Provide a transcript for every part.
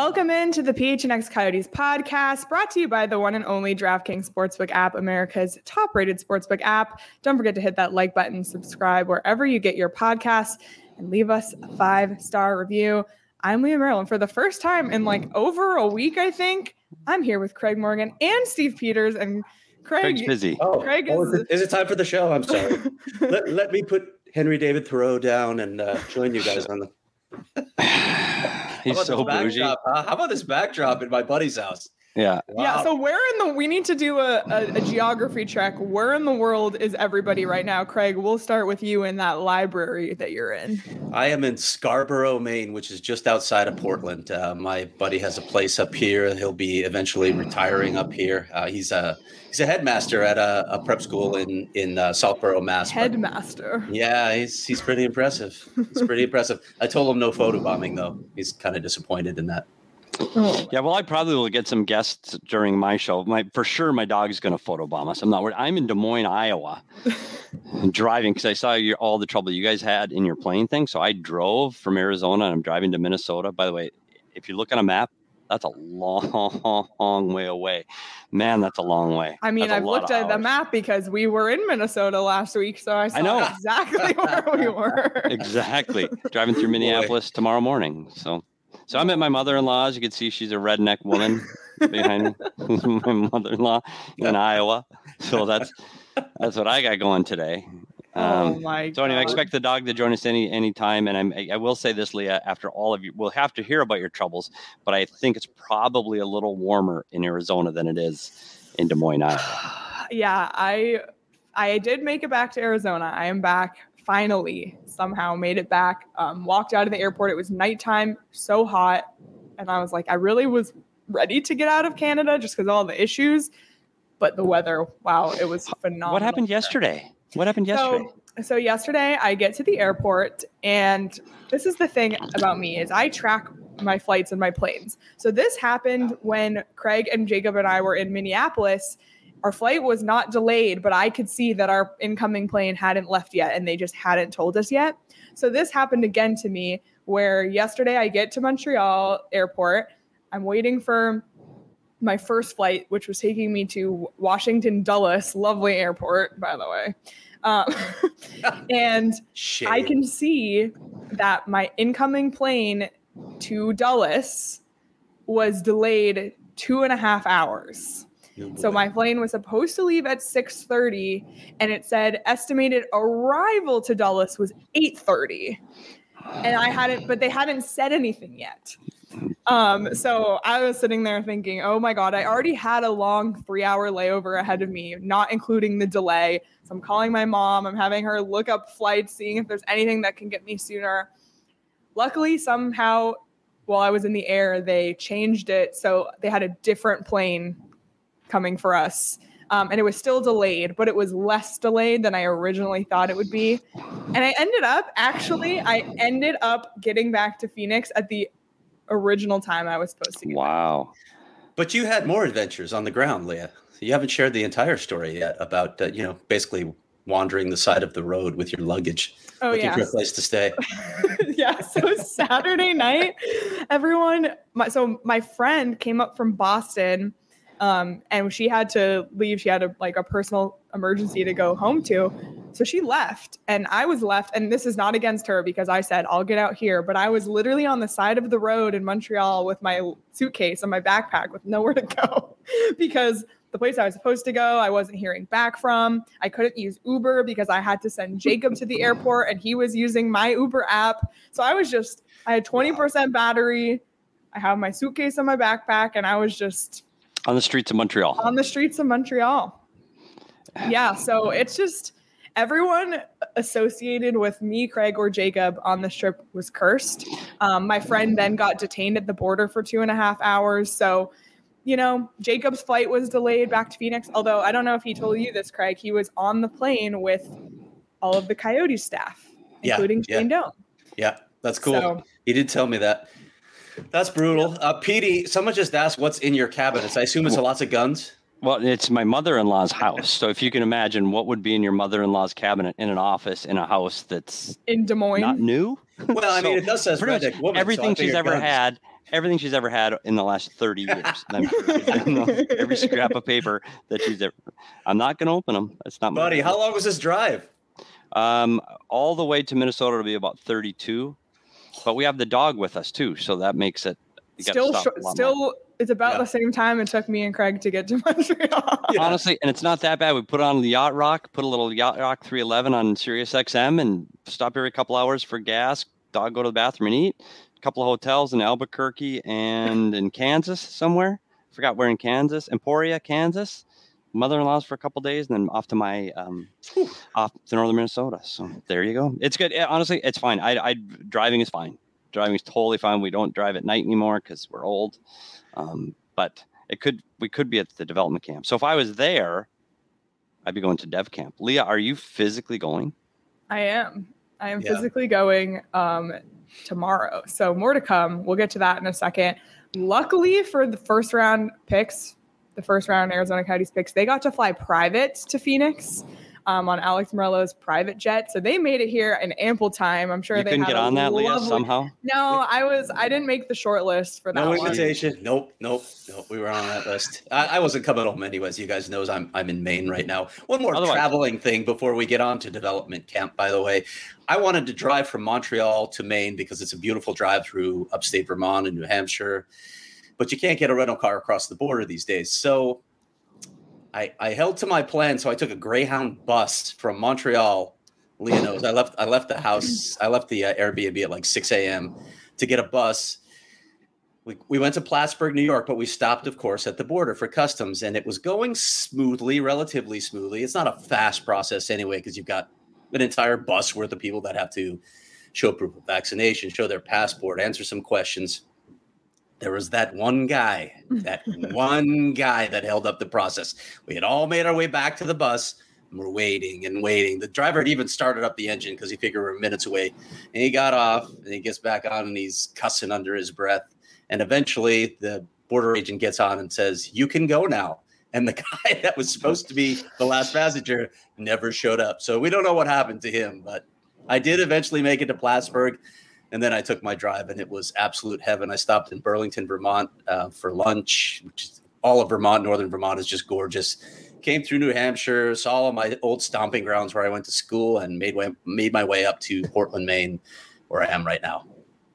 Welcome into the PHNX Coyotes podcast, brought to you by the one and only DraftKings Sportsbook app, America's top-rated sportsbook app. Don't forget to hit that like button, subscribe wherever you get your podcasts, and leave us a 5-star review. I'm Leah Maryland. For the first time in over a week, I think, I'm here with Craig Morgan and Steve Peters. And Craig's busy. Craig is it time for the show? I'm sorry. let me put Henry David Thoreau down and join you guys on the. He's so bougie. How about this backdrop in my buddy's house? Yeah. Wow. Yeah. So we need to do a geography check. Where in the world is everybody right now? Craig, we'll start with you in that library that you're in. I am in Scarborough, Maine, which is just outside of Portland. My buddy has a place up here. He'll be eventually retiring up here. He's a headmaster at a prep school in Southborough, Mass. Headmaster. Yeah, he's pretty impressive. He's pretty impressive. I told him no photobombing though. He's kind of disappointed in that. Oh. Yeah, well, I probably will get some guests during my show. For sure, my dog is going to photobomb us. I'm not worried. I'm in Des Moines, Iowa, driving because I saw all the trouble you guys had in your plane thing. So I drove from Arizona and I'm driving to Minnesota. By the way, if you look on a map, that's a long way away. Man, that's a long way. I mean, I've looked at the map because we were in Minnesota last week, so I saw exactly where we were. Exactly. Driving through Minneapolis tomorrow morning. So I'm at my mother-in-law's. You can see she's a redneck woman behind me. My mother-in-law in Iowa. So that's what I got going today. Oh my God. So anyway, I expect the dog to join us any time. And I will say this, Leah, after all of you, we'll have to hear about your troubles, but I think it's probably a little warmer in Arizona than it is in Des Moines, Iowa. Yeah, I did make it back to Arizona. I am back. Finally, somehow made it back. Walked out of the airport. It was nighttime, so hot. And I was like, I really was ready to get out of Canada just because of all the issues. But the weather, wow, it was phenomenal. What happened yesterday? So yesterday I get to the airport, and this is the thing about me is I track my flights and my planes. So this happened when Craig and Jacob and I were in Minneapolis. Our flight was not delayed, but I could see that our incoming plane hadn't left yet, and they just hadn't told us yet. So this happened again to me, where yesterday I get to Montreal airport. I'm waiting for my first flight, which was taking me to Washington Dulles, lovely airport, by the way. And Shame. I can see that my incoming plane to Dulles was delayed 2.5 hours. So my plane was supposed to leave at 6:30, and it said estimated arrival to Dulles was 8:30. And but they hadn't said anything yet. So I was sitting there thinking, oh my God, I already had a long 3-hour layover ahead of me, not including the delay. So I'm calling my mom. I'm having her look up flights, seeing if there's anything that can get me sooner. Luckily, somehow, while I was in the air, they changed it. So they had a different plane coming for us. And it was still delayed, but it was less delayed than I originally thought it would be. And I ended up getting back to Phoenix at the original time I was supposed to get. Wow. But you had more adventures on the ground, Leah. You haven't shared the entire story yet about, basically wandering the side of the road with your luggage, looking for a place to stay. Yeah. So Saturday night, my friend came up from Boston. And she had to leave. She had a personal emergency to go home to. So she left and I was left. And this is not against her because I said, I'll get out here. But I was literally on the side of the road in Montreal with my suitcase and my backpack with nowhere to go because the place I was supposed to go, I wasn't hearing back from. I couldn't use Uber because I had to send Jacob to the airport and he was using my Uber app. So I had 20% battery. I have my suitcase and my backpack and I was just... On the streets of Montreal. Yeah, so it's just everyone associated with me, Craig, or Jacob on this trip was cursed. My friend then got detained at the border for 2.5 hours. So, Jacob's flight was delayed back to Phoenix. Although I don't know if he told you this, Craig. He was on the plane with all of the Coyote staff, including Shane Doan. Yeah, that's cool. So, he did tell me that. That's brutal. Petey, someone just asked what's in your cabinets. I assume it's lots of guns. Well, it's my mother-in-law's house. So if you can imagine what would be in your mother-in-law's cabinet in an office in a house that's in Des Moines, not new. Well, I mean, it does say redneck woman. Everything she's ever had everything she's ever had in the last 30 years. And I'm sure it's in every scrap of paper that she's ever. I'm not going to open them. That's not Buddy, how long was this drive? All the way to Minnesota to be about 32. But we have the dog with us too, so that makes it still. It's about the same time it took me and Craig to get to Montreal. Honestly, and it's not that bad. We put on the Yacht Rock, put a little Yacht Rock 311 on Sirius XM, and stop every couple hours for gas. Dog go to the bathroom and eat. A couple of hotels in Albuquerque and in Kansas somewhere. Forgot where in Kansas. Emporia, Kansas. Mother-in-law's for a couple of days, and then off to my off to northern Minnesota. So there you go. It's good. Honestly, it's fine. I driving is fine. Driving is totally fine. We don't drive at night anymore because we're old. But we could be at the development camp. So if I was there, I'd be going to dev camp. Leah, are you physically going? I am physically going tomorrow. So more to come. We'll get to that in a second. Luckily for the first round picks, the first round Arizona Coyotes picks, they got to fly private to Phoenix on Alex Morello's private jet. So they made it here in ample time. I'm sure you couldn't get on that, Leah, somehow? No, I didn't make the short list for that. No invitation. Nope. We were on that list. I wasn't coming home anyways. You guys knows I'm in Maine right now. One more traveling thing before we get on to development camp, by the way. I wanted to drive from Montreal to Maine because it's a beautiful drive through upstate Vermont and New Hampshire. But you can't get a rental car across the border these days. So I held to my plan. So I took a Greyhound bus from Montreal. Leah knows I left the house. I left the Airbnb at like 6 a.m. to get a bus. We went to Plattsburgh, New York, but we stopped, of course, at the border for customs. And it was going smoothly, relatively smoothly. It's not a fast process anyway, because you've got an entire bus worth of people that have to show proof of vaccination, show their passport, answer some questions. There was that one guy that held up the process. We had all made our way back to the bus, and we're waiting and waiting. The driver had even started up the engine because he figured we were minutes away. And he got off, and he gets back on, and he's cussing under his breath. And eventually, the border agent gets on and says, "You can go now." And the guy that was supposed to be the last passenger never showed up. So we don't know what happened to him, but I did eventually make it to Plattsburgh. And then I took my drive, and it was absolute heaven. I stopped in Burlington, Vermont for lunch, which is all of Vermont. Northern Vermont is just gorgeous. Came through New Hampshire, saw all my old stomping grounds where I went to school, and made my way up to Portland, Maine, where I am right now.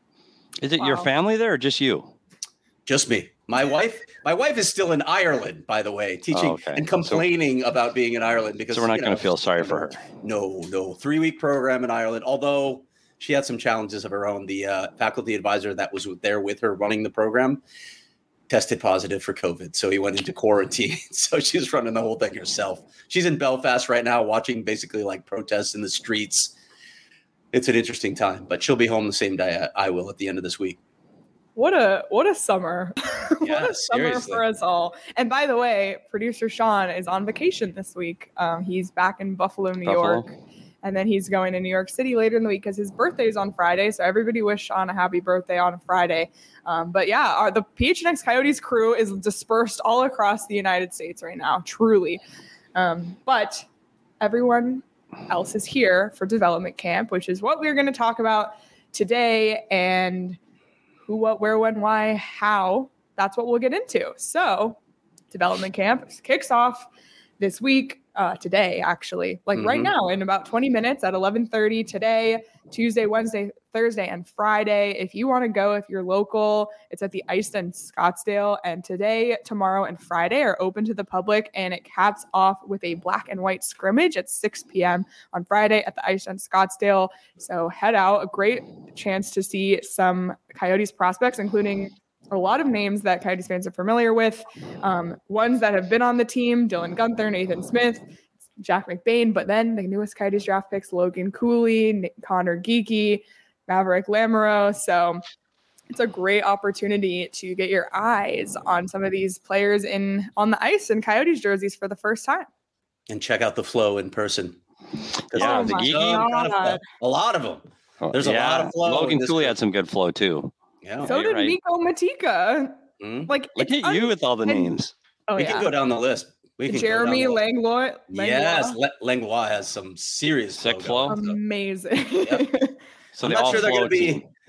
Is it your family there or just you? Just me. My wife is still in Ireland, by the way, teaching and complaining about being in Ireland because so we're not going to feel sorry for her. No, 3-week program in Ireland, although she had some challenges of her own. The faculty advisor that was there with her running the program tested positive for COVID. So he went into quarantine. So she's running the whole thing herself. She's in Belfast right now watching basically like protests in the streets. It's an interesting time, but she'll be home the same day I will at the end of this week. What a summer. Yeah, what a summer for us all. And by the way, producer Sean is on vacation this week. He's back in Buffalo, New York. And then he's going to New York City later in the week because his birthday is on Friday. So everybody wish Sean a happy birthday on a Friday. But yeah, the PHNX Coyotes crew is dispersed all across the United States right now, truly. But everyone else is here for development camp, which is what we're going to talk about today. And who, what, where, when, why, how. That's what we'll get into. So development camp kicks off this week. Today, actually, right now in about 20 minutes at 11:30 today, Tuesday, Wednesday, Thursday, and Friday. If you want to go, if you're local, it's at the Ice in Scottsdale. And today, tomorrow, and Friday are open to the public. And it caps off with a black and white scrimmage at 6 p.m. on Friday at the Ice in Scottsdale. So head out. A great chance to see some Coyotes prospects, including a lot of names that Coyotes fans are familiar with, ones that have been on the team: Dylan Guenther, Nathan Smith, Jack McBain, but then the newest Coyotes draft picks: Logan Cooley, Connor Geeky, Maverick Lamoureux. So it's a great opportunity to get your eyes on some of these players on the ice in Coyotes jerseys for the first time. And check out the flow in person. Yeah, the Geeky. A lot of them. There's a lot of flow. Logan Cooley had some good flow too. Yeah. So did Nico Matika. Look at you with all the names. We can go down the list. Jeremy Langlois. Yes, Langlois has some serious sick flow. Amazing. Yep. So I'm not sure they're going to be.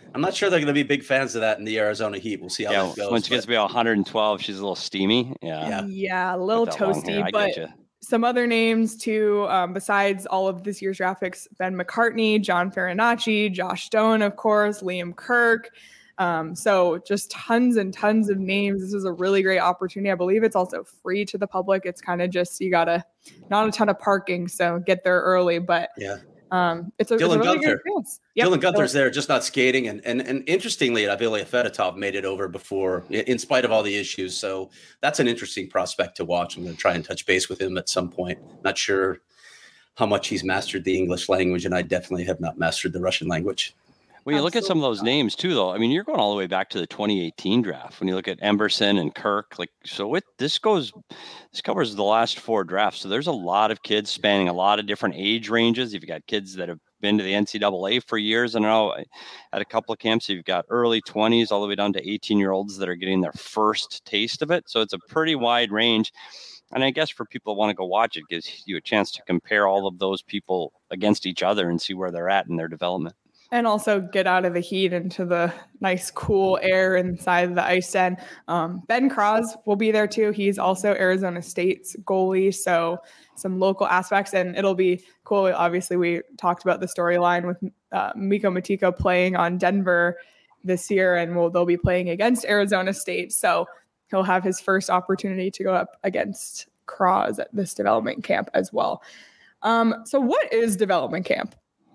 I'm not sure they're going to be big fans of that in the Arizona heat. We'll see how that goes. Once it gets to be 112, she's a little steamy. Yeah, a little toasty. But you. Some other names too, besides all of this year's draft picks: Ben McCartney, John Farinacci, Josh Stone, of course, Liam Kirk. So just tons and tons of names. This is a really great opportunity. I believe it's also free to the public. It's kind of just, you gotta, not a ton of parking, so get there early. But it's a really great chance. Yep. Dylan Gunther's there, just not skating. And interestingly, Ilya Fedotov made it over before, in spite of all the issues. So that's an interesting prospect to watch. I'm going to try and touch base with him at some point. Not sure how much he's mastered the English language, and I definitely have not mastered the Russian language. Well, you look at some of those names too, though. I mean, you're going all the way back to the 2018 draft. When you look at Emberson and Kirk, this covers the last 4 drafts. So there's a lot of kids spanning a lot of different age ranges. You've got kids that have been to the NCAA for years. I know at a couple of camps, you've got early 20s all the way down to 18-year-olds that are getting their first taste of it. So it's a pretty wide range. And I guess for people that want to go watch it, gives you a chance to compare all of those people against each other and see where they're at in their development. And also get out of the heat into the nice, cool air inside the ice den. Ben Cross will be there too. He's also Arizona State's goalie, so some local aspects. And it'll be cool. Obviously, we talked about the storyline with Mikko Matiko playing on Denver this year, and they'll be playing against Arizona State. So he'll have his first opportunity to go up against Cross at this development camp as well. So what is development camp?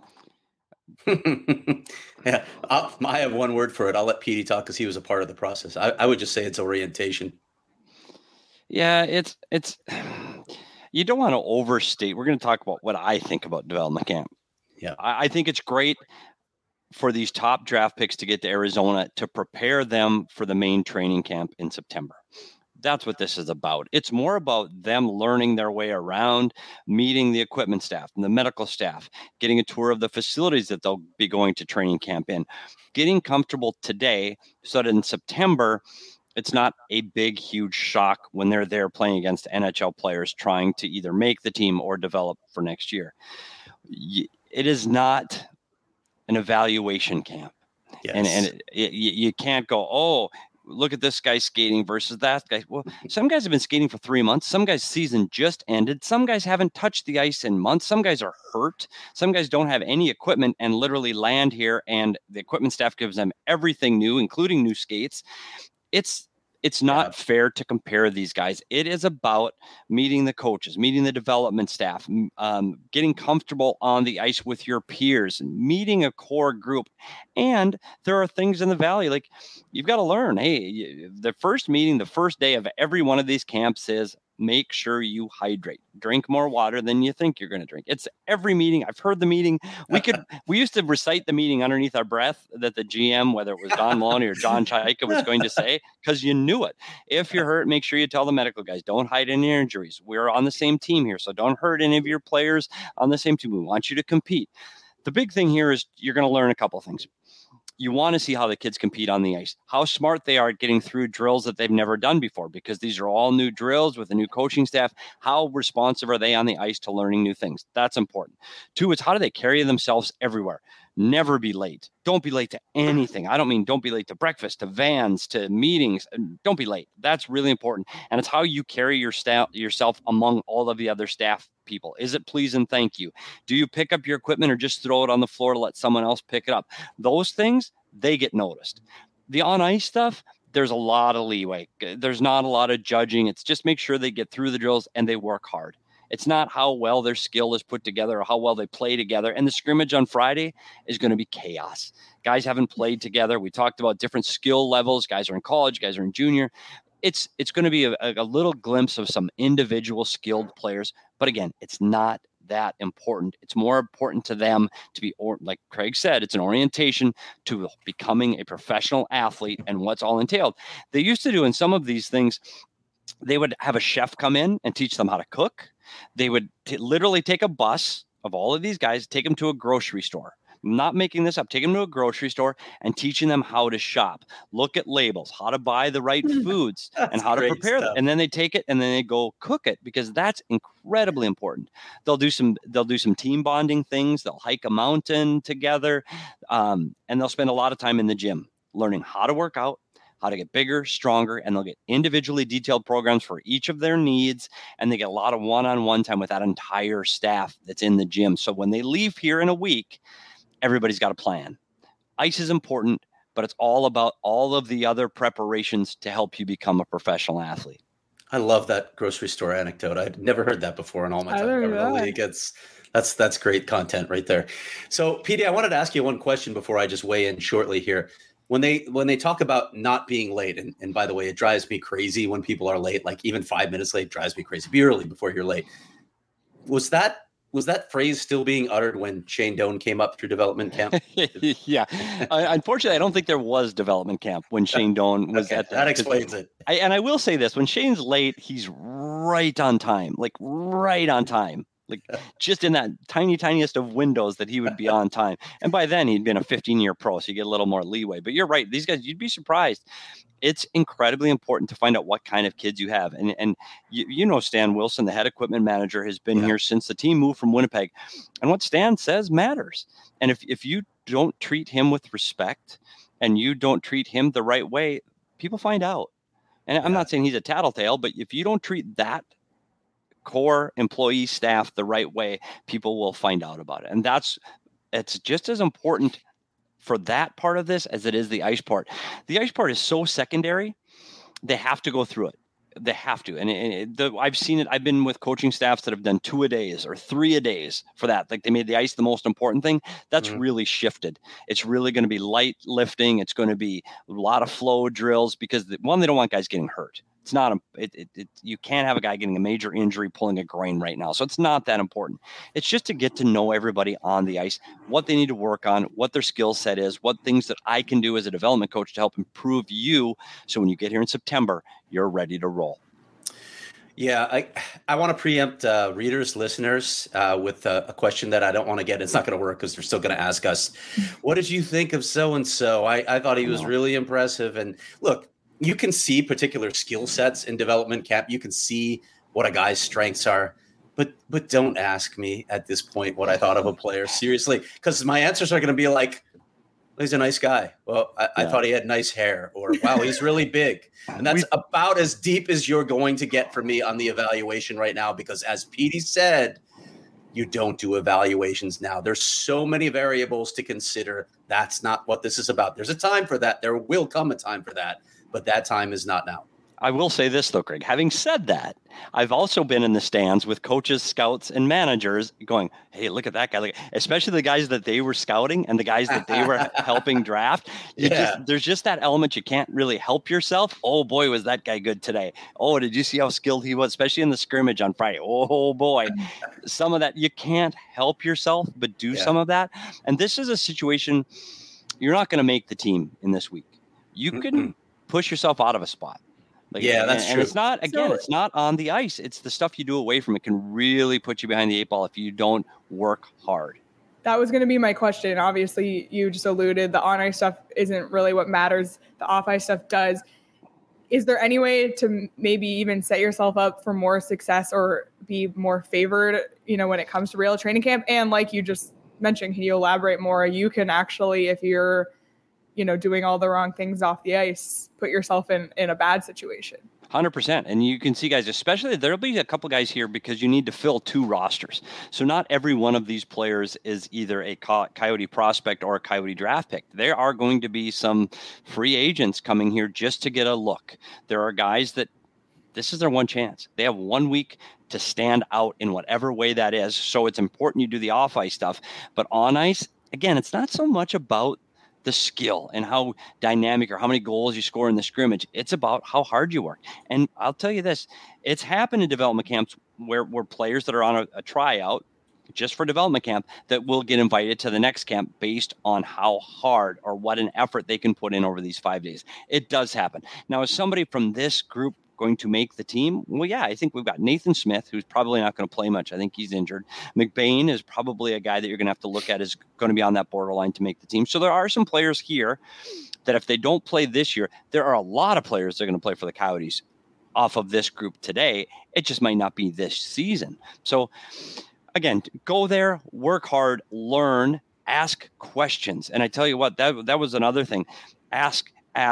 Yeah, I have one word for it. I'll let Petey talk because he was a part of the process. I would just say it's orientation. Yeah, it's you don't want to overstate. We're going to talk about what I think about development camp. Yeah, I think it's great for these top draft picks to get to Arizona to prepare them for the main training camp in September. That's what this is about. It's more about them learning their way around, meeting the equipment staff and the medical staff, getting a tour of the facilities that they'll be going to training camp in, getting comfortable today so that in September, it's not a big, huge shock when they're there playing against NHL players trying to either make the team or develop for next year. It is not an evaluation camp. Yes. And you can't go, oh, look at this guy skating versus that guy. Well, some guys have been skating for 3 months. Some guys' season just ended. Some guys haven't touched the ice in months. Some guys are hurt. Some guys don't have any equipment and literally land here, and the equipment staff gives them everything new, including new skates. It's not fair to compare these guys. It is about meeting the coaches, meeting the development staff, getting comfortable on the ice with your peers, meeting a core group. And there are things in the Valley, like you've got to learn. Hey, the first meeting, the first day of every one of these camps is make sure you hydrate. Drink more water than you think you're going to drink. It's every meeting. I've heard the meeting. We used to recite the meeting underneath our breath that the GM, whether it was Don Maloney or John Chaika, was going to say, because you knew it. If you're hurt, make sure you tell the medical guys. Don't hide any injuries. We're on the same team here, so don't hurt any of your players on the same team. We want you to compete. The big thing here is you're going to learn a couple of things. You want to see how the kids compete on the ice, how smart they are at getting through drills that they've never done before, because these are all new drills with a new coaching staff. How responsive are they on the ice to learning new things? That's important. 2, it's how do they carry themselves everywhere? Never be late. Don't be late to anything. I don't mean don't be late to breakfast, to vans, to meetings. Don't be late. That's really important. And it's how you carry yourself among all of the other staff people. Is it please and thank you? Do you pick up your equipment or just throw it on the floor to let someone else pick it up? Those things, they get noticed. The on-ice stuff, there's a lot of leeway. There's not a lot of judging. It's just make sure they get through the drills and they work hard. It's not how well their skill is put together or how well they play together. And the scrimmage on Friday is going to be chaos. Guys haven't played together. We talked about different skill levels. Guys are in college. Guys are in junior. It's going to be a little glimpse of some individual skilled players. But again, it's not that important. It's more important to them to be, or like Craig said, it's an orientation to becoming a professional athlete and what's all entailed. They used to do in some of these things, they would have a chef come in and teach them how to cook. They would literally take a bus of all of these guys, take them to a grocery store, I'm not making this up. Take them to a grocery store and teaching them how to shop, look at labels, how to buy the right foods and how to prepare them. And then they take it and then they go cook it, because that's incredibly important. They'll do some team bonding things. They'll hike a mountain together, and they'll spend a lot of time in the gym learning how to work out, how to get bigger, stronger, and they'll get individually detailed programs for each of their needs. And they get a lot of one-on-one time with that entire staff that's in the gym. So when they leave here in a week, everybody's got a plan. Ice is important, but it's all about all of the other preparations to help you become a professional athlete. I love that grocery store anecdote. I'd never heard that before in all my time. That's great content right there. So, PD, I wanted to ask you one question before I just weigh in shortly here. When they talk about not being late, and by the way, it drives me crazy when people are late, like even 5 minutes late drives me crazy. Be early before you're late. Was that phrase still being uttered when Shane Doan came up through development camp? Yeah. Unfortunately, I don't think there was development camp when Shane Doan was at that. That explains it. And I will say this, when Shane's late, he's right on time, like right on time. Like just in that tiniest of windows that he would be on time. And by then he'd been a 15-year pro, so you get a little more leeway. But you're right. These guys, you'd be surprised. It's incredibly important to find out what kind of kids you have. And you know, Stan Wilson, the head equipment manager, has been here since the team moved from Winnipeg. And what Stan says matters. And if you don't treat him with respect and you don't treat him the right way, people find out. And I'm not saying he's a tattletale, but if you don't treat that core employee staff the right way, people will find out about it. And it's just as important for that part of this as it is the ice part. The ice part is so secondary. They have to go through it. They have to. And I've seen it. I've been with coaching staffs that have done 2-a-days or 3-a-days for that. Like they made the ice the most important thing. That's really shifted. It's really going to be light lifting. It's going to be a lot of flow drills because they don't want guys getting hurt. It's not you can't have a guy getting a major injury pulling a groin right now. So it's not that important. It's just to get to know everybody on the ice, what they need to work on, what their skill set is, what things that I can do as a development coach to help improve you. So when you get here in September, you're ready to roll. Yeah, I want to preempt readers, listeners with a question that I don't want to get. It's not going to work because they're still going to ask us, what did you think of so-and-so? I thought he was really impressive. And look, you can see particular skill sets in development camp. You can see what a guy's strengths are, but don't ask me at this point what I thought of a player, seriously, because my answers are going to be like, he's a nice guy. Well, I thought he had nice hair, or wow, he's really big. And that's about as deep as you're going to get from me on the evaluation right now, because as Petey said, you don't do evaluations now. There's so many variables to consider. That's not what this is about. There's a time for that. There will come a time for that. But that time is not now. I will say this, though, Craig. Having said that, I've also been in the stands with coaches, scouts, and managers going, hey, look at that guy. Especially the guys that they were scouting and the guys that they were helping draft. There's just that element you can't really help yourself. Oh, boy, was that guy good today. Oh, did you see how skilled he was, especially in the scrimmage on Friday? Oh, boy. Some of that, you can't help yourself, but do some of that. And this is a situation, you're not going to make the team in this week. You can push yourself out of a spot. That's true. And it's not, again, it's not on the ice. It's the stuff you do away from it can really put you behind the 8 ball if you don't work hard. That was going to be my question. Obviously, you just alluded the on-ice stuff isn't really what matters. The off-ice stuff does. Is there any way to maybe even set yourself up for more success or be more favored, when it comes to real training camp? And like you just mentioned, can you elaborate more? You can actually, if you're doing all the wrong things off the ice, put yourself in a bad situation. 100%. And you can see guys, especially there'll be a couple guys here because you need to fill 2 rosters. So not every one of these players is either a Coyote prospect or a Coyote draft pick. There are going to be some free agents coming here just to get a look. There are guys that this is their one chance. They have 1 week to stand out in whatever way that is. So it's important you do the off ice stuff, but on ice, again, it's not so much about the skill and how dynamic or how many goals you score in the scrimmage. It's about how hard you work. And I'll tell you this, it's happened in development camps where players that are on a tryout just for development camp that will get invited to the next camp based on how hard or what an effort they can put in over these 5 days. It does happen. Now, as somebody from this group going to make the team? Well, yeah, I think we've got Nathan Smith, who's probably not going to play much. I think he's injured. McBain is probably a guy that you're going to have to look at is going to be on that borderline to make the team. So there are some players here that if they don't play this year, there are a lot of players that are going to play for the Coyotes off of this group today. It just might not be this season. So again, go there, work hard, learn, ask questions. And I tell you what, that was another thing. Ask.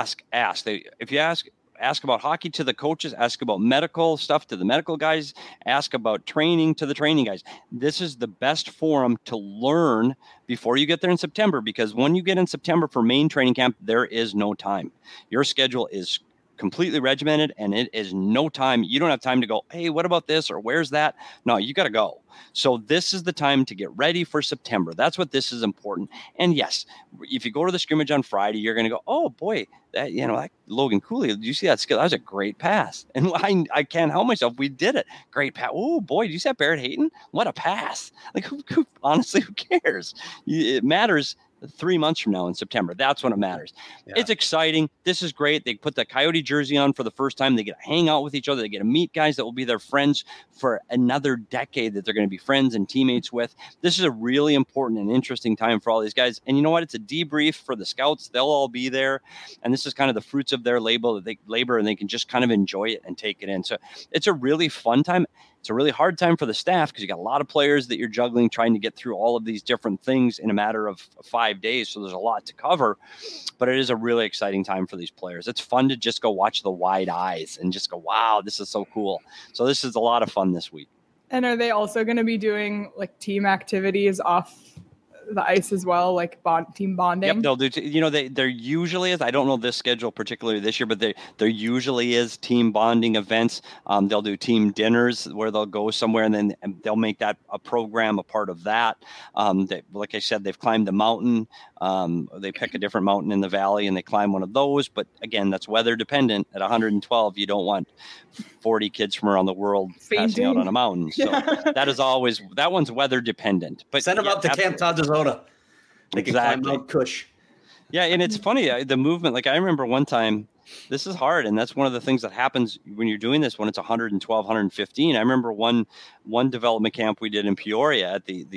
If you ask about hockey to the coaches, ask about medical stuff to the medical guys, ask about training to the training guys. This is the best forum to learn before you get there in September, because when you get in September for main training camp, there is no time. Your schedule is completely regimented and it is no time. You don't have time to go, hey, what about this? Or where's that? No, you got to go. So this is the time to get ready for September. That's what this is important. And yes, if you go to the scrimmage on Friday, you're going to go, oh boy, that Logan Cooley, did you see that skill? That was a great pass. And I can't help myself. We did it. Great pass. Oh boy, did you see that Barrett Hayton? What a pass. Like honestly, who cares? It matters 3 months from now in September. That's when it matters. Yeah. It's exciting. This is great. They put the Coyote jersey on for the first time. They get to hang out with each other. They get to meet guys that will be their friends for another decade that they're going to be friends and teammates with. This is a really important and interesting time for all these guys. And you know what? It's a debrief for the scouts. They'll all be there. And this is kind of the fruits of their labor, and they can just kind of enjoy it and take it in. So it's a really fun time. It's a really hard time for the staff because you got a lot of players that you're juggling, trying to get through all of these different things in a matter of 5 days. So there's a lot to cover, but it is a really exciting time for these players. It's fun to just go watch the wide eyes and just go, wow, this is so cool. So this is a lot of fun this week. And are they also going to be doing like team activities off the ice as well, like team bonding? Yep, they'll do. There usually is. I don't know this schedule particularly this year, but there usually is team bonding events. They'll do team dinners where they'll go somewhere, and then they'll make that a program, a part of that. Like I said, they've climbed the mountain. They pick a different mountain in the valley and they climb one of those. But again, that's weather dependent. At 112, you don't want 40 kids from around the world passing out on a mountain. So that one's weather dependent. But send them up to Camp Tazazona. They can climb Mount Kush. Yeah, and it's funny, the movement. Like I remember one time, this is hard, and that's one of the things that happens when you're doing this when it's 112, 115. I remember one development camp we did in Peoria at the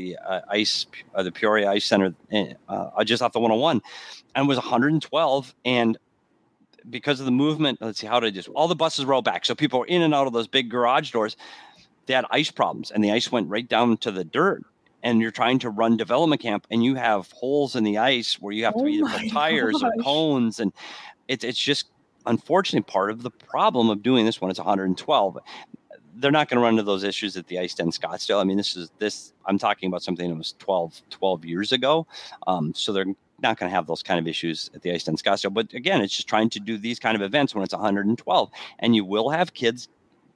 Peoria Ice Center, just off the 101, and it was 112, and because of the movement, let's see, how did I just, all the buses roll back. So people were in and out of those big garage doors. They had ice problems and the ice went right down to the dirt, and you're trying to run development camp and you have holes in the ice where you have to either put tires or cones. And it's just unfortunately part of the problem of doing this when it's 112. They're not going to run into those issues at the Ice Den Scottsdale. I mean, I'm talking about something that was 12 years ago. So they're not going to have those kind of issues at the Ice Den Scottsdale. But again, it's just trying to do these kind of events when it's 112, and you will have kids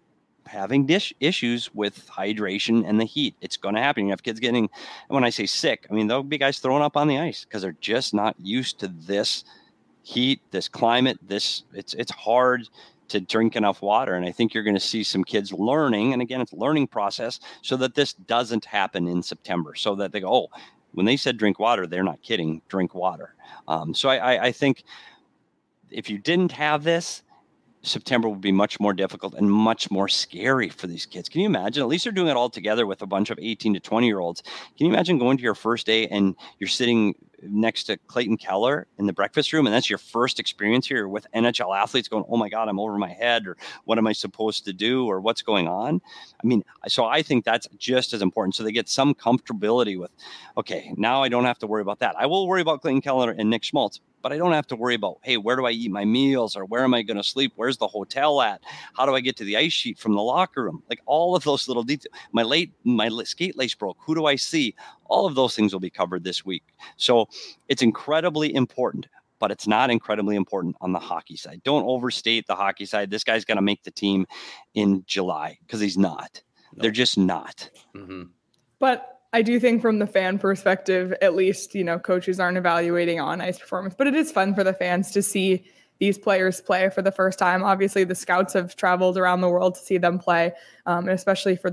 having issues with hydration and the heat. It's going to happen. You have kids getting, when I say sick, I mean, there'll be guys throwing up on the ice because they're just not used to this heat, this climate, it's hard to drink enough water. And I think you're going to see some kids learning. And again, it's a learning process so that this doesn't happen in September, so that they go, oh, when they said drink water, they're not kidding, drink water. So I think if you didn't have this, September would be much more difficult and much more scary for these kids. Can you imagine? At least they're doing it all together with a bunch of 18 to 20-year-olds. Can you imagine going to your first day and you're sitting next to Clayton Keller in the breakfast room, and that's your first experience here with NHL athletes going, oh my God, I'm over my head, or what am I supposed to do, or what's going on? I mean, so I think that's just as important. So they get some comfortability with, okay, now I don't have to worry about that. I will worry about Clayton Keller and Nick Schmaltz, but I don't have to worry about, hey, where do I eat my meals, or where am I going to sleep? Where's the hotel at? How do I get to the ice sheet from the locker room? Like all of those little details. My skate lace broke. Who do I see? All of those things will be covered this week. So it's incredibly important, but it's not incredibly important on the hockey side. Don't overstate the hockey side. This guy's going to make the team in July, because he's not. Nope. They're just not. Mm-hmm. But I do think from the fan perspective, at least, coaches aren't evaluating on ice performance, but it is fun for the fans to see these players play for the first time. Obviously, the scouts have traveled around the world to see them play, and especially for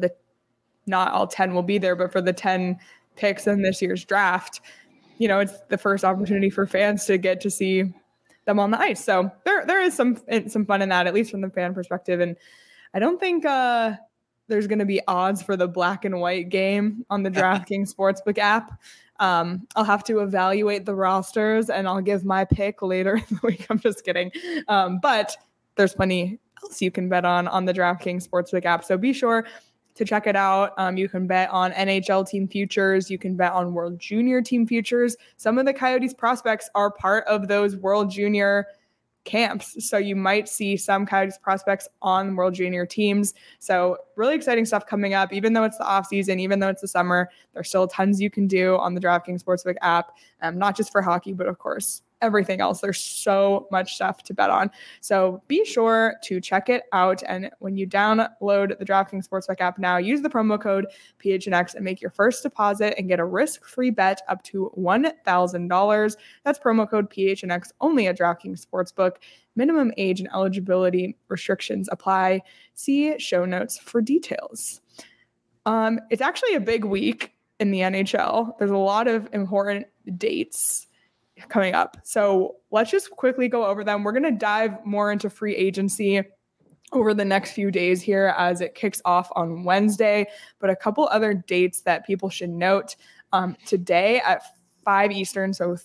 not all 10 will be there, but for the 10 picks in this year's draft, it's the first opportunity for fans to get to see them on the ice. So there is some fun in that, at least from the fan perspective. And I don't think there's going to be odds for the black and white game on the DraftKings Sportsbook app. I'll have to evaluate the rosters and I'll give my pick later in the week. I'm just kidding. But there's plenty else you can bet on the DraftKings Sportsbook app. So be sure to check it out. You can bet on NHL team futures. You can bet on World Junior team futures. Some of the Coyotes prospects are part of those World Junior camps. So you might see some Coyotes prospects on World Junior teams. So really exciting stuff coming up. Even though it's the off season, even though it's the summer, there's still tons you can do on the DraftKings Sportsbook app, not just for hockey, but of course, everything else. There's so much stuff to bet on. So be sure to check it out. And when you download the DraftKings Sportsbook app now, use the promo code PHNX and make your first deposit and get a risk-free bet up to $1,000. That's promo code PHNX only at DraftKings Sportsbook. Minimum age and eligibility restrictions apply. See show notes for details. It's actually a big week in the NHL. There's a lot of important dates coming up. So let's just quickly go over them. We're going to dive more into free agency over the next few days here as it kicks off on Wednesday. But a couple other dates that people should note. Today at 5 Eastern, so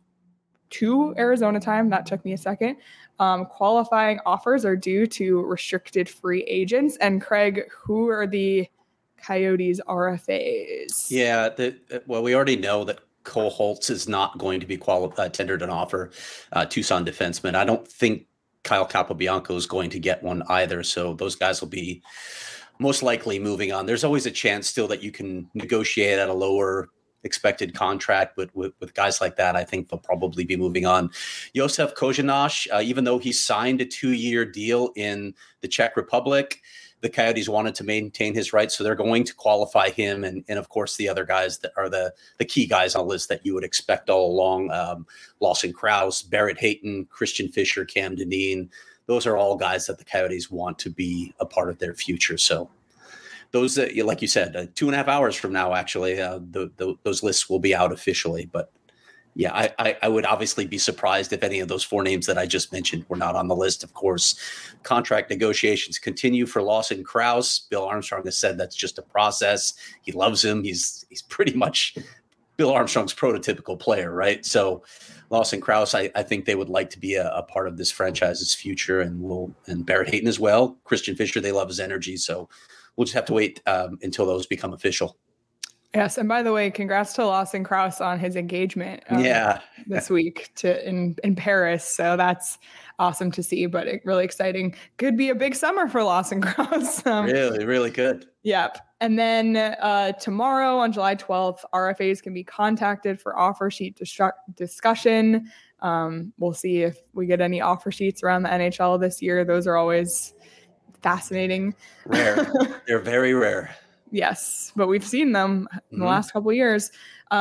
2 Arizona time, that took me a second, qualifying offers are due to restricted free agents. And Craig, who are the Coyotes RFAs? Yeah, well, we already know that Cole Holtz is not going to be tendered an offer. Tucson defenseman. I don't think Kyle Capobianco is going to get one either. So those guys will be most likely moving on. There's always a chance still that you can negotiate at a lower expected contract, but with guys like that, I think they'll probably be moving on. Josef Kozhinash, even though he signed a 2-year deal in the Czech Republic, the Coyotes wanted to maintain his rights, so they're going to qualify him and of course the other guys that are the key guys on the list that you would expect all along. Lawson Krause, Barrett Hayton, Christian Fischer, Cam Dineen. Those are all guys that the Coyotes want to be a part of their future. So those, like you said, 2.5 hours from now, actually, those lists will be out officially. But yeah, I would obviously be surprised if any of those 4 names that I just mentioned were not on the list. Of course, contract negotiations continue for Lawson Krause. Bill Armstrong has said that's just a process. He loves him. He's pretty much Bill Armstrong's prototypical player, right? So Lawson Krause, I think they would like to be a part of this franchise's future, and Barrett Hayton as well. Christian Fischer, they love his energy. So we'll just have to wait until those become official. Yes, and by the way, congrats to Lawson Krause on his engagement this week in Paris. So that's awesome to see, but really exciting. Could be a big summer for Lawson Krause. Really, really good. Yep. And then tomorrow on July 12th, RFAs can be contacted for offer sheet discussion. We'll see if we get any offer sheets around the NHL this year. Those are always fascinating. Rare. They're very rare. Yes, but we've seen them in the last couple of years.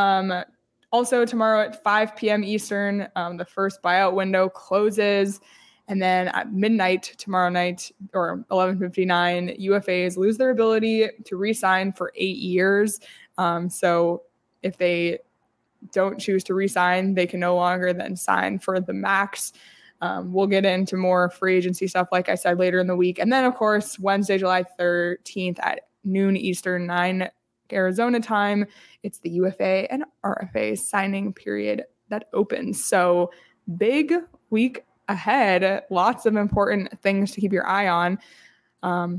Also, tomorrow at 5 p.m. Eastern, the first buyout window closes. And then at midnight tomorrow night, or 11:59, UFAs lose their ability to re-sign for 8 years. So if they don't choose to re-sign, they can no longer then sign for the max. We'll get into more free agency stuff, like I said, later in the week. And then, of course, Wednesday, July 13th at noon Eastern, 9 Arizona time, it's the UFA and RFA signing period that opens. So big week ahead, lots of important things to keep your eye on. I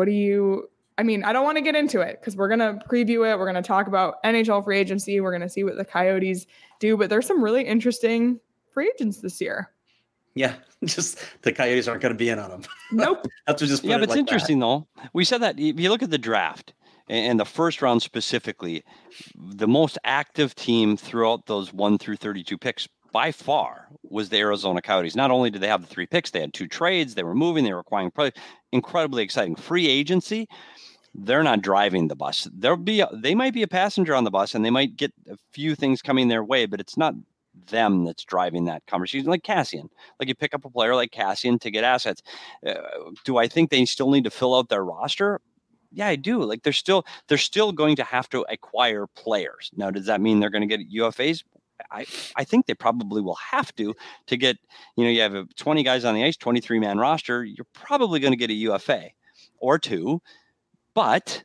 don't want to get into it because we're going to preview it. We're going to talk about NHL free agency. We're going to see what the Coyotes do, but there's some really interesting free agents this year. Yeah, just the Coyotes aren't going to be in on them. Nope. That's just but it's interesting though. We said that if you look at the draft and the first round specifically, the most active team throughout those 1 through 32 picks by far was the Arizona Coyotes. Not only did they have the 3 picks, they had 2 trades, they were moving, they were acquiring, incredibly exciting. Free agency, they're not driving the bus. They might be a passenger on the bus and they might get a few things coming their way, but it's not them that's driving that conversation. Like Cassian, like you pick up a player like Cassian to get assets. Do I think they still need to fill out their roster? Yeah, I do. Like they're still going to have to acquire players. Now, does that mean they're going to get UFAs? I think they probably will have to get, you have 20 guys on the ice, 23-man roster. You're probably going to get a UFA or two, but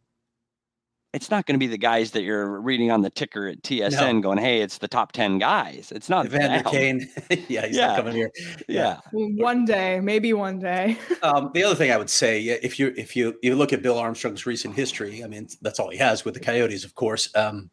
it's not going to be the guys that you're reading on the ticker at TSN going, hey, it's the top 10 guys. It's not Evander Kane. He's not coming here. Yeah. One day, maybe one day. The other thing I would say, if you look at Bill Armstrong's recent history, I mean, that's all he has with the Coyotes, of course.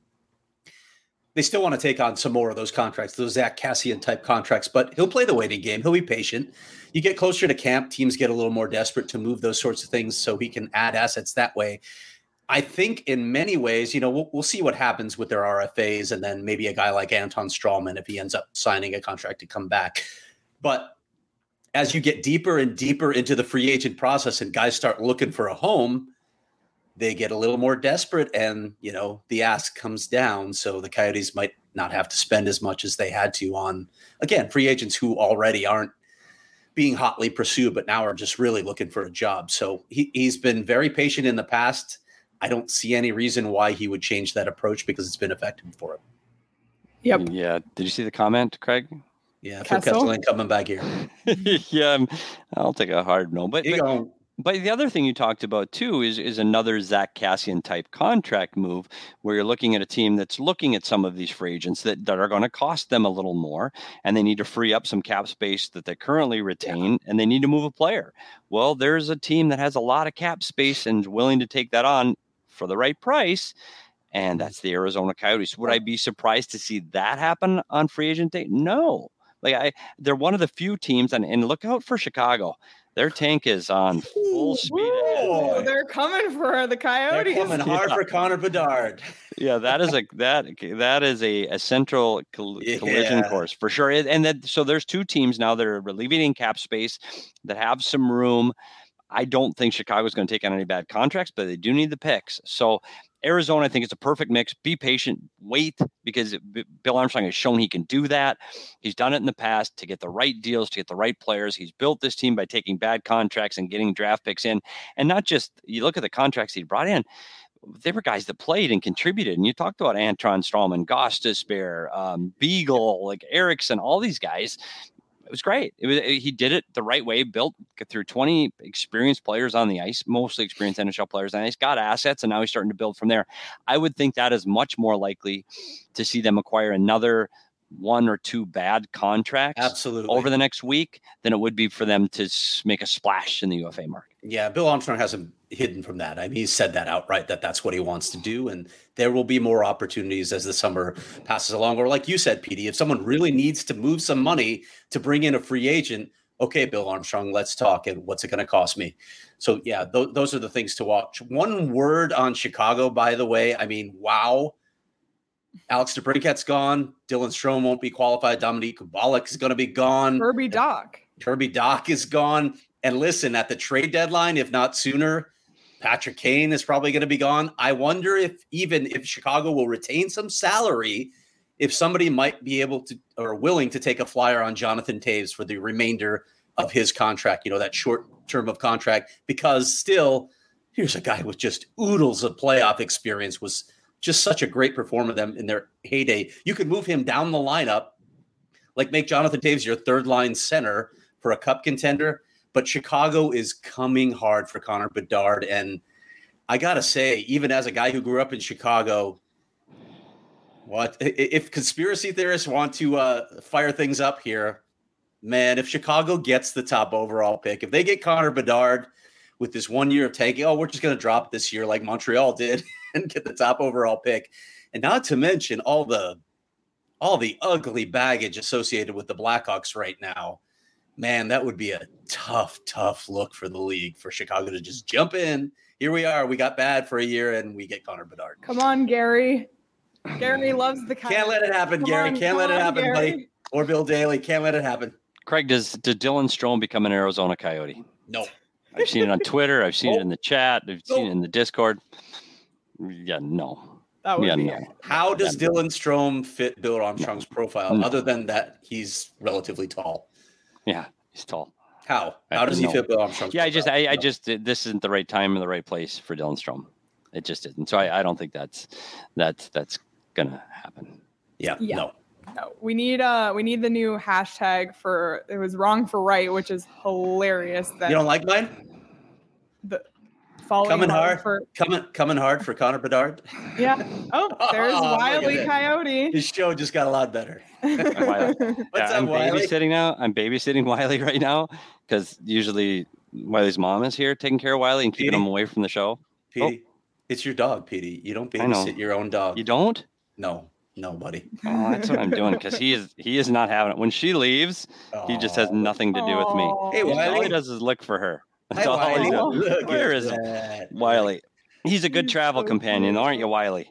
They still want to take on some more of those contracts, those Zach Kassian type contracts, but he'll play the waiting game. He'll be patient. You get closer to camp, teams get a little more desperate to move those sorts of things so he can add assets that way. I think in many ways, we'll see what happens with their RFAs and then maybe a guy like Anton Strawman if he ends up signing a contract to come back. But as you get deeper and deeper into the free agent process and guys start looking for a home, they get a little more desperate and, the ask comes down. So the Coyotes might not have to spend as much as they had to on, again, free agents who already aren't being hotly pursued, but now are just really looking for a job. So he's been very patient in the past. I don't see any reason why he would change that approach because it's been effective for him. Yep. Yeah. Did you see the comment, Craig? Yeah. Phil Kessel ain't coming back here. Yeah. I'll take a hard no, but the other thing you talked about too is another Zach Kassian type contract move where you're looking at a team that's looking at some of these free agents that are going to cost them a little more and they need to free up some cap space that they currently retain and they need to move a player. Well, there's a team that has a lot of cap space and is willing to take that on for the right price. And that's the Arizona Coyotes. Would I be surprised to see that happen on free agent day? No. They're one of the few teams and look out for Chicago. Their tank is on full speed ahead. They're coming for the Coyotes. They're coming hard for Connor Bedard. Yeah, that is a central collision course for sure. And so there's two teams now that are alleviating cap space that have some room. I don't think Chicago's going to take on any bad contracts, but they do need the picks. So Arizona, I think it's a perfect mix. Be patient, wait, because Bill Armstrong has shown he can do that. He's done it in the past to get the right deals, to get the right players. He's built this team by taking bad contracts and getting draft picks in. And not just, you look at the contracts he brought in, they were guys that played and contributed. And you talked about Anton Strawman, Gostisbehere, Beagle, like Eriksson, all these guys. It was great. He did it the right way, built through 20 experienced players on the ice, mostly experienced NHL players on the ice, got assets, and now he's starting to build from there. I would think that is much more likely to see them acquire another one or two bad contracts over the next week than it would be for them to make a splash in the UFA market. Yeah, Bill Armstrong hasn't hidden from that. I mean, he's said that outright, that's what he wants to do. And there will be more opportunities as the summer passes along. Or like you said, Petey, if someone really needs to move some money to bring in a free agent, okay, Bill Armstrong, let's talk. And what's it going to cost me? So, yeah, those are the things to watch. One word on Chicago, by the way. I mean, wow. Alex DeBrincat's gone. Dylan Strome won't be qualified. Dominique Kubalik is going to be gone. Kirby Dach is gone. And listen, at the trade deadline, if not sooner, Patrick Kane is probably going to be gone. I wonder if Chicago will retain some salary, if somebody might be able to or willing to take a flyer on Jonathan Toews for the remainder of his contract, that short term of contract, because still, here's a guy with just oodles of playoff experience, was just such a great performer them in their heyday. You could move him down the lineup, like make Jonathan Toews your third line center for a cup contender. But Chicago is coming hard for Connor Bedard. And I got to say, even as a guy who grew up in Chicago, if conspiracy theorists want to fire things up here, man, if Chicago gets the top overall pick, if they get Connor Bedard with this 1 year of tanking, we're just going to drop this year like Montreal did and get the top overall pick. And not to mention all the ugly baggage associated with the Blackhawks right now. Man, that would be a tough look for the league, for Chicago to just jump in. Here we are. We got bad for a year, and we get Connor Bedard. Come on, Gary. Gary loves the Can't let it happen, Gary. Can't let it happen, Gary. Buddy. Or Bill Daly. Can't let it happen. Craig, did Dylan Strome become an Arizona Coyote? No. I've seen it on Twitter. I've seen it in the chat. I've seen it in the Discord. Yeah, no. No. How does Dylan Strome fit Bill Armstrong's profile, other than that he's relatively tall? Yeah, he's tall. How does he fit Bill Armstrong's profile? I just this isn't the right time or the right place for Dylan Strome. It just isn't. So I don't think that's gonna happen. Yeah. No. No, we need the new hashtag for it was wrong for right, which is hilarious. That You don't like mine? the following Coming hard hard, for coming hard for Connor Bedard. yeah. Oh, there's Look at Wiley that. Coyote. His show just got a lot better. Wiley. What's up, I'm Wiley? babysitting now. I'm babysitting Wiley right now because usually Wiley's mom is here taking care of Wiley and keeping Petey? him away from the show. Petey, it's your dog, Petey. You don't I know. babysit your own dog. You don't? No, buddy. Oh, that's what I'm doing because he is not having it. When she leaves, he just has nothing to do with me. Aw. Hey, All Wiley. he does is look for her. That's Hi, all Wiley. he does. Look Where at is that. Wiley? He's a good He's travel so companion, cute. aren't you, Wiley?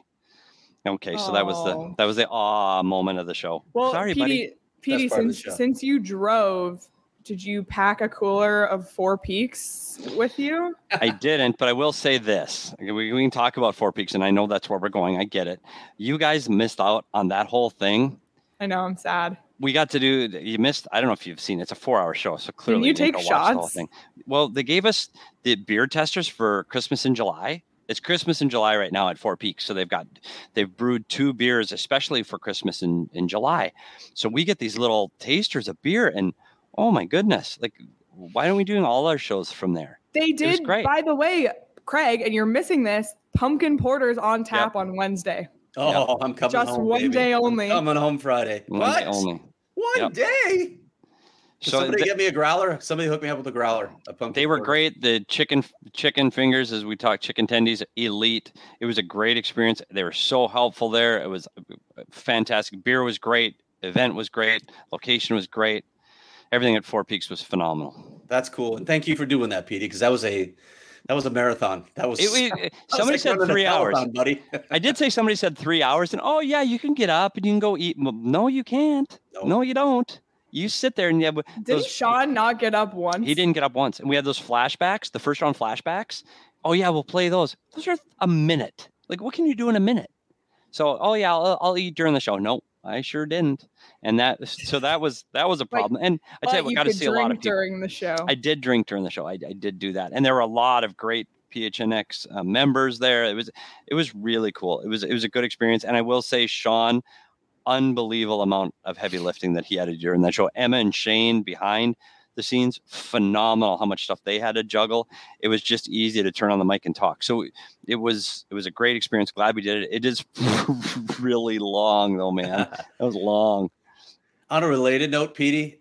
Okay, so that Aw. was the awe moment of the show. Well, Sorry, buddy. Petey, Best part of the show. since you drove, did you pack a cooler of Four Peaks with you? I didn't, but I will say this. We can talk about Four Peaks, and I know that's where we're going. I get it. You guys missed out on that whole thing. I know, I'm sad. We got to do. You missed. I don't know if you've seen it. It's a 4-hour show, so clearly you didn't take go watch the whole shots? thing. Well, they gave us the beer testers for Christmas in July. It's Christmas in July right now at Four Peaks, so they've brewed 2 beers especially for Christmas in July. So we get these little tasters of beer, and oh my goodness, like why aren't we doing all our shows from there? They was did, great. by the way, Craig, and you're missing this, pumpkin porter's on tap on Wednesday. Oh, I'm coming Just home, one baby. day I'm only. coming home Friday. One What? day only. One Yep. day? Can So somebody get me a growler? Somebody hook me up with a growler. A pumpkin they were porter. great. The chicken fingers, as we talked, chicken tendies, elite. It was a great experience. They were so helpful there. It was fantastic. Beer was great. Event was great. Location was great. Everything at Four Peaks was phenomenal. That's cool. And thank you for doing that, Petey, because that was a marathon. That was Somebody said running a 3 hours. marathon, buddy. I did say somebody said 3 hours, and oh yeah, you can get up and you can go eat. No, you can't. No, you don't. You sit there and you have Didn't Sean not get up once? He didn't get up once, and we had those flashbacks, the first round flashbacks. Oh yeah, we'll play those. Those are a minute. Like, what can you do in a minute? So, oh yeah, I'll eat during the show. No, I sure didn't. And that was a problem. And I tell you, we got to see a lot of people during the show. I did drink during the show. I did do that, and there were a lot of great PHNX members there. It was really cool. It was a good experience, and I will say, Sean, unbelievable amount of heavy lifting that he had to do during that show. Emma and Shane behind the scenes, phenomenal how much stuff they had to juggle. It was just easy to turn on the mic and talk. So it was a great experience. Glad we did it. It is really long though, man. It was long. On a related note, Petey,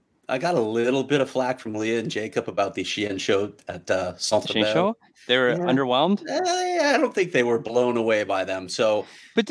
I got a little bit of flack from Leah and Jacob about the Shein show at Centre Shane Bell. show? They were underwhelmed? I don't think they were blown away by them. So, but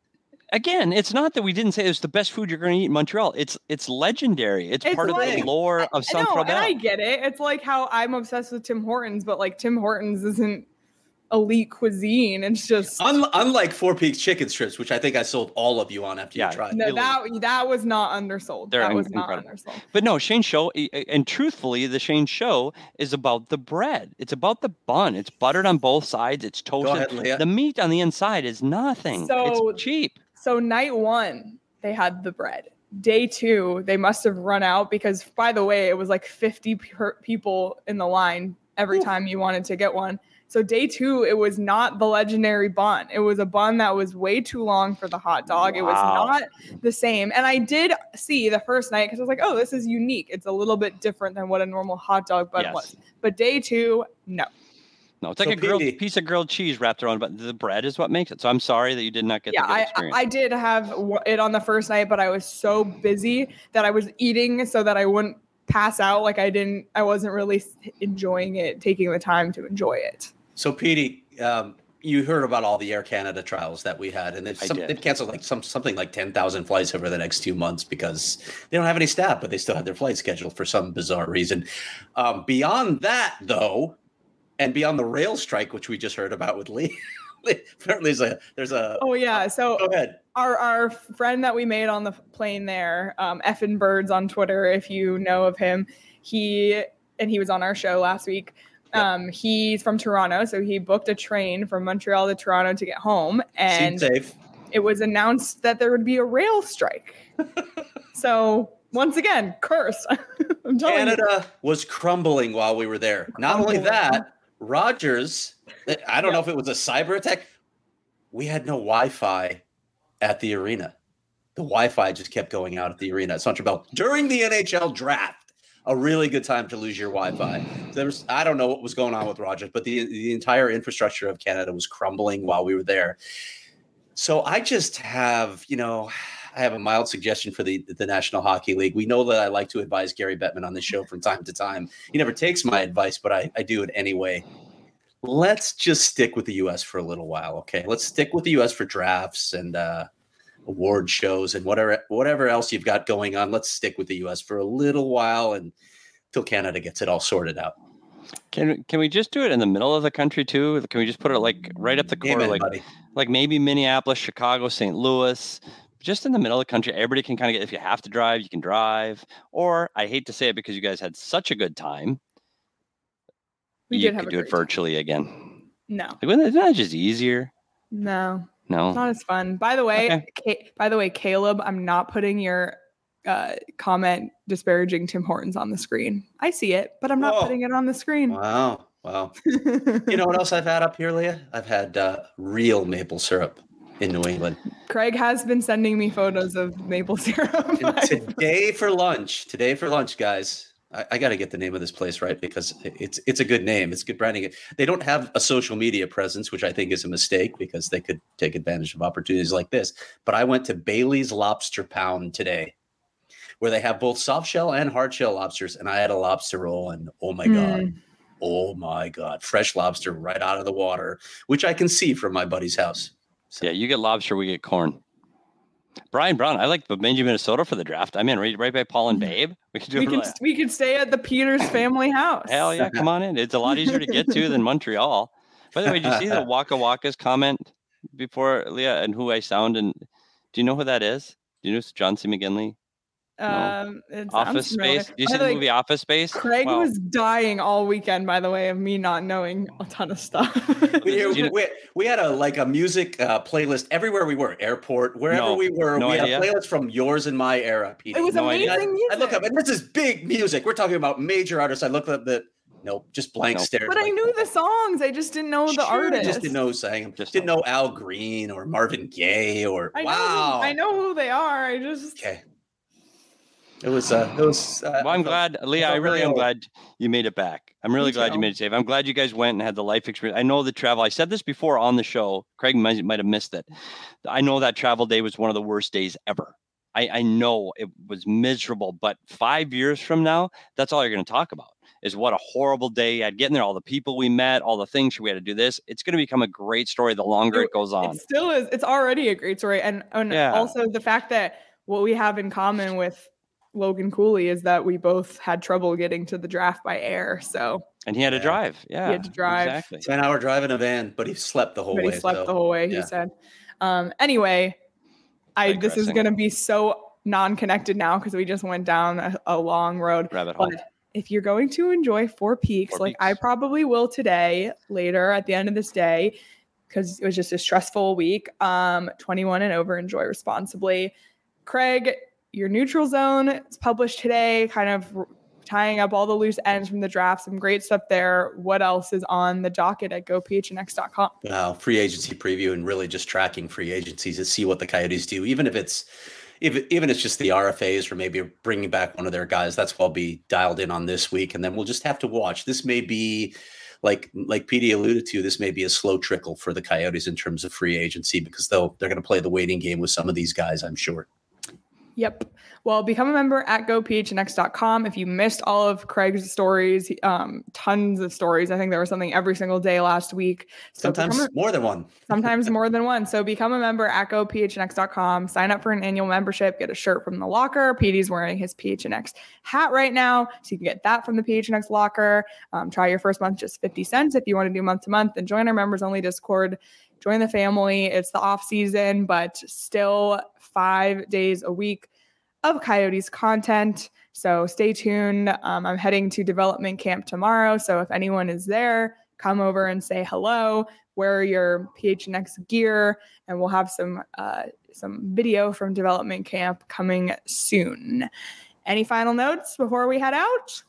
it's not that we didn't say it's the best food you're going to eat in Montreal. It's legendary. It's part of the lore of Centre Bell. And I get it. It's like how I'm obsessed with Tim Hortons, but like Tim Hortons isn't elite cuisine. It's just unlike Four Peaks chicken strips, which I think I sold all of you on after you tried. No, that was not undersold. That was incredible. Not undersold. But no, Shane's show, and truthfully, the Shane show is about the bread. It's about the bun. It's buttered on both sides. It's toasted. Go ahead, Leah. The meat on the inside is nothing. So it's cheap. So night 1, they had the bread. Day 2, they must have run out because, by the way, it was like 50 people in the line every time you wanted to get one. So day 2, it was not the legendary bun. It was a bun that was way too long for the hot dog. Wow. It was not the same. And I did see the first night because I was like, oh, this is unique. It's a little bit different than what a normal hot dog bun was. But day 2, no. No, it's like a piece of grilled cheese wrapped around, but the bread is what makes it. So I'm sorry that you did not get the good experience. I did have it on the first night, but I was so busy that I was eating so that I wouldn't pass out. Like I wasn't really enjoying it, taking the time to enjoy it. So Petey, you heard about all the Air Canada trials that we had, and they've canceled like something like 10,000 flights over the next 2 months because they don't have any staff, but they still have their flights scheduled for some bizarre reason. Beyond that, though, and beyond the rail strike, which we just heard about with Lee, apparently there's a. Oh yeah, so go ahead. Our friend that we made on the plane there, Effin Birds on Twitter, if you know of him, he was on our show last week. Yep. He's from Toronto, so he booked a train from Montreal to Toronto to get home, and it was announced that there would be a rail strike. So once again, curse. I'm telling Canada was crumbling while we were there. Not only that, Rogers, I don't know if it was a cyber attack. We had no Wi-Fi at the arena. the Wi-Fi just kept going out at the arena at Central during the NHL draft. A really good time to lose your Wi-Fi. I don't know what was going on with Rogers, but the entire infrastructure of Canada was crumbling while we were there. So I just have, I have a mild suggestion for the National Hockey League. We know that I like to advise Gary Bettman on this show from time to time. He never takes my advice, but I do it anyway. Let's just stick with the U.S. for a little while, okay? Let's stick with the U.S. for drafts and award shows and whatever else you've got going on. Let's stick with the U.S. for a little while until Canada gets it all sorted out. Can we just do it in the middle of the country too? Can we just put it like right up the corner, like maybe Minneapolis, Chicago, St. Louis, just in the middle of the country? Everybody can kind of get. If you have to drive, you can drive. Or I hate to say it because you guys had such a good time, you could do it virtually again. No, isn't that just easier? No, it's not as fun. By the way, Caleb, I'm not putting your comment disparaging Tim Hortons on the screen. I see it, but I'm not putting it on the screen. Wow. You know what else I've had up here, Leah? I've had real maple syrup in New England. Craig has been sending me photos of maple syrup. Today for lunch, guys. I got to get the name of this place right because it's a good name. It's good branding. They don't have a social media presence, which I think is a mistake because they could take advantage of opportunities like this. But I went to Bailey's Lobster Pound today, where they have both soft shell and hard shell lobsters. And I had a lobster roll and oh my God, fresh lobster right out of the water, which I can see from my buddy's house. So. Yeah, you get lobster, we get corn. Brian Brown, I like Bemidji, Minnesota for the draft. I'm in right by Paul and Babe. We could stay at the Peters family house. Hell yeah, come on in. It's a lot easier to get to than Montreal. By the way, did you see the Waka Waka's comment before, Leah, and who I sound? And do you know who that is? Do you know John C. McGinley? No. Office Space. Do you see the movie Office Space? Craig was dying all weekend, by the way, of me not knowing a ton of stuff. we had a music playlist everywhere we were, airport, wherever we were. We had a playlist from yours and my era, Peter. It was amazing music. I look up, and this is big music. We're talking about major artists. I looked up just blank stare. But I knew the songs. I just didn't know the artists. Just didn't know who sang them. Didn't know Al Green or Marvin Gaye or I know who they are. Okay. It was. Well, I'm glad, Leah. I really am glad you made it back. I'm really glad you made it safe. I'm glad you guys went and had the life experience. I know the travel. I said this before on the show. Craig might have missed it. I know that travel day was one of the worst days ever. I know it was miserable. But 5 years from now, that's all you're going to talk about. Is what a horrible day. I'd get in there, all the people we met, all the things we had to do this. It's going to become a great story the longer it goes on. It still is. It's already a great story. And also the fact that what we have in common with Logan Cooley is that we both had trouble getting to the draft by air. And he had to drive. Yeah. He had to drive. Exactly. 10-hour drive in a van, but he slept the whole way. He said. Anyway, this is going to be so non-connected now because we just went down a long road. Rabbit hole. But if you're going to enjoy Four Peaks, I probably will today, later at the end of this day, because it was just a stressful week. 21 and over, enjoy responsibly. Craig, your neutral zone is published today, kind of tying up all the loose ends from the draft. Some great stuff there. What else is on the docket at gophnx.com? Wow, free agency preview and really just tracking free agencies to see what the Coyotes do, even if it's just the RFAs or maybe bringing back one of their guys. That's what I'll be dialed in on this week, and then we'll just have to watch. This may be, like PD alluded to, this may be a slow trickle for the Coyotes in terms of free agency because they're going to play the waiting game with some of these guys, I'm sure. Yep. Well, become a member at gophnx.com. If you missed all of Craig's stories, tons of stories. I think there was something every single day last week. So sometimes more than one. Sometimes more than one. So become a member at gophnx.com. Sign up for an annual membership. Get a shirt from the locker. PD's wearing his PHNX hat right now, so you can get that from the PHNX locker. Try your first month, just 50 cents if you want to do month to month. And join our members-only Discord. Join the family. It's the off season, but still 5 days a week of Coyotes content. So stay tuned. I'm heading to development camp tomorrow. So if anyone is there, come over and say hello, wear your PHNX gear, and we'll have some video from development camp coming soon. Any final notes before we head out?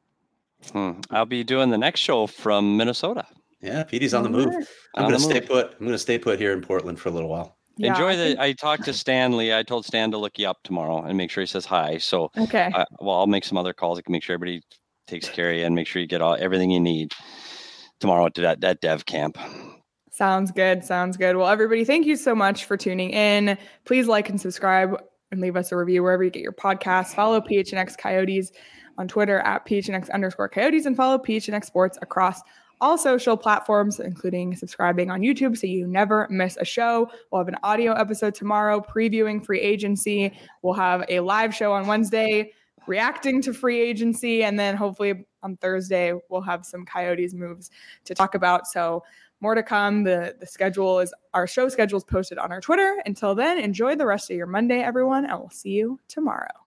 I'll be doing the next show from Minnesota. Yeah, Petey's on the move. I'm going to stay put. I'm going to stay put here in Portland for a little while. Yeah, Enjoy I talked to Stanley. I told Stan to look you up tomorrow and make sure he says hi. So, okay. I'll make some other calls. I can make sure everybody takes care of you and make sure you get everything you need tomorrow at that dev camp. Sounds good. Well, everybody, thank you so much for tuning in. Please like and subscribe and leave us a review wherever you get your podcasts. Follow PHNX Coyotes on Twitter at PHNX_Coyotes and follow PHNX Sports across all social platforms, including subscribing on YouTube so you never miss a show. We'll have an audio episode tomorrow previewing free agency. We'll have a live show on Wednesday reacting to free agency. And then hopefully on Thursday, we'll have some Coyotes moves to talk about. So more to come. Our show schedule is posted on our Twitter. Until then, enjoy the rest of your Monday, everyone, and we'll see you tomorrow.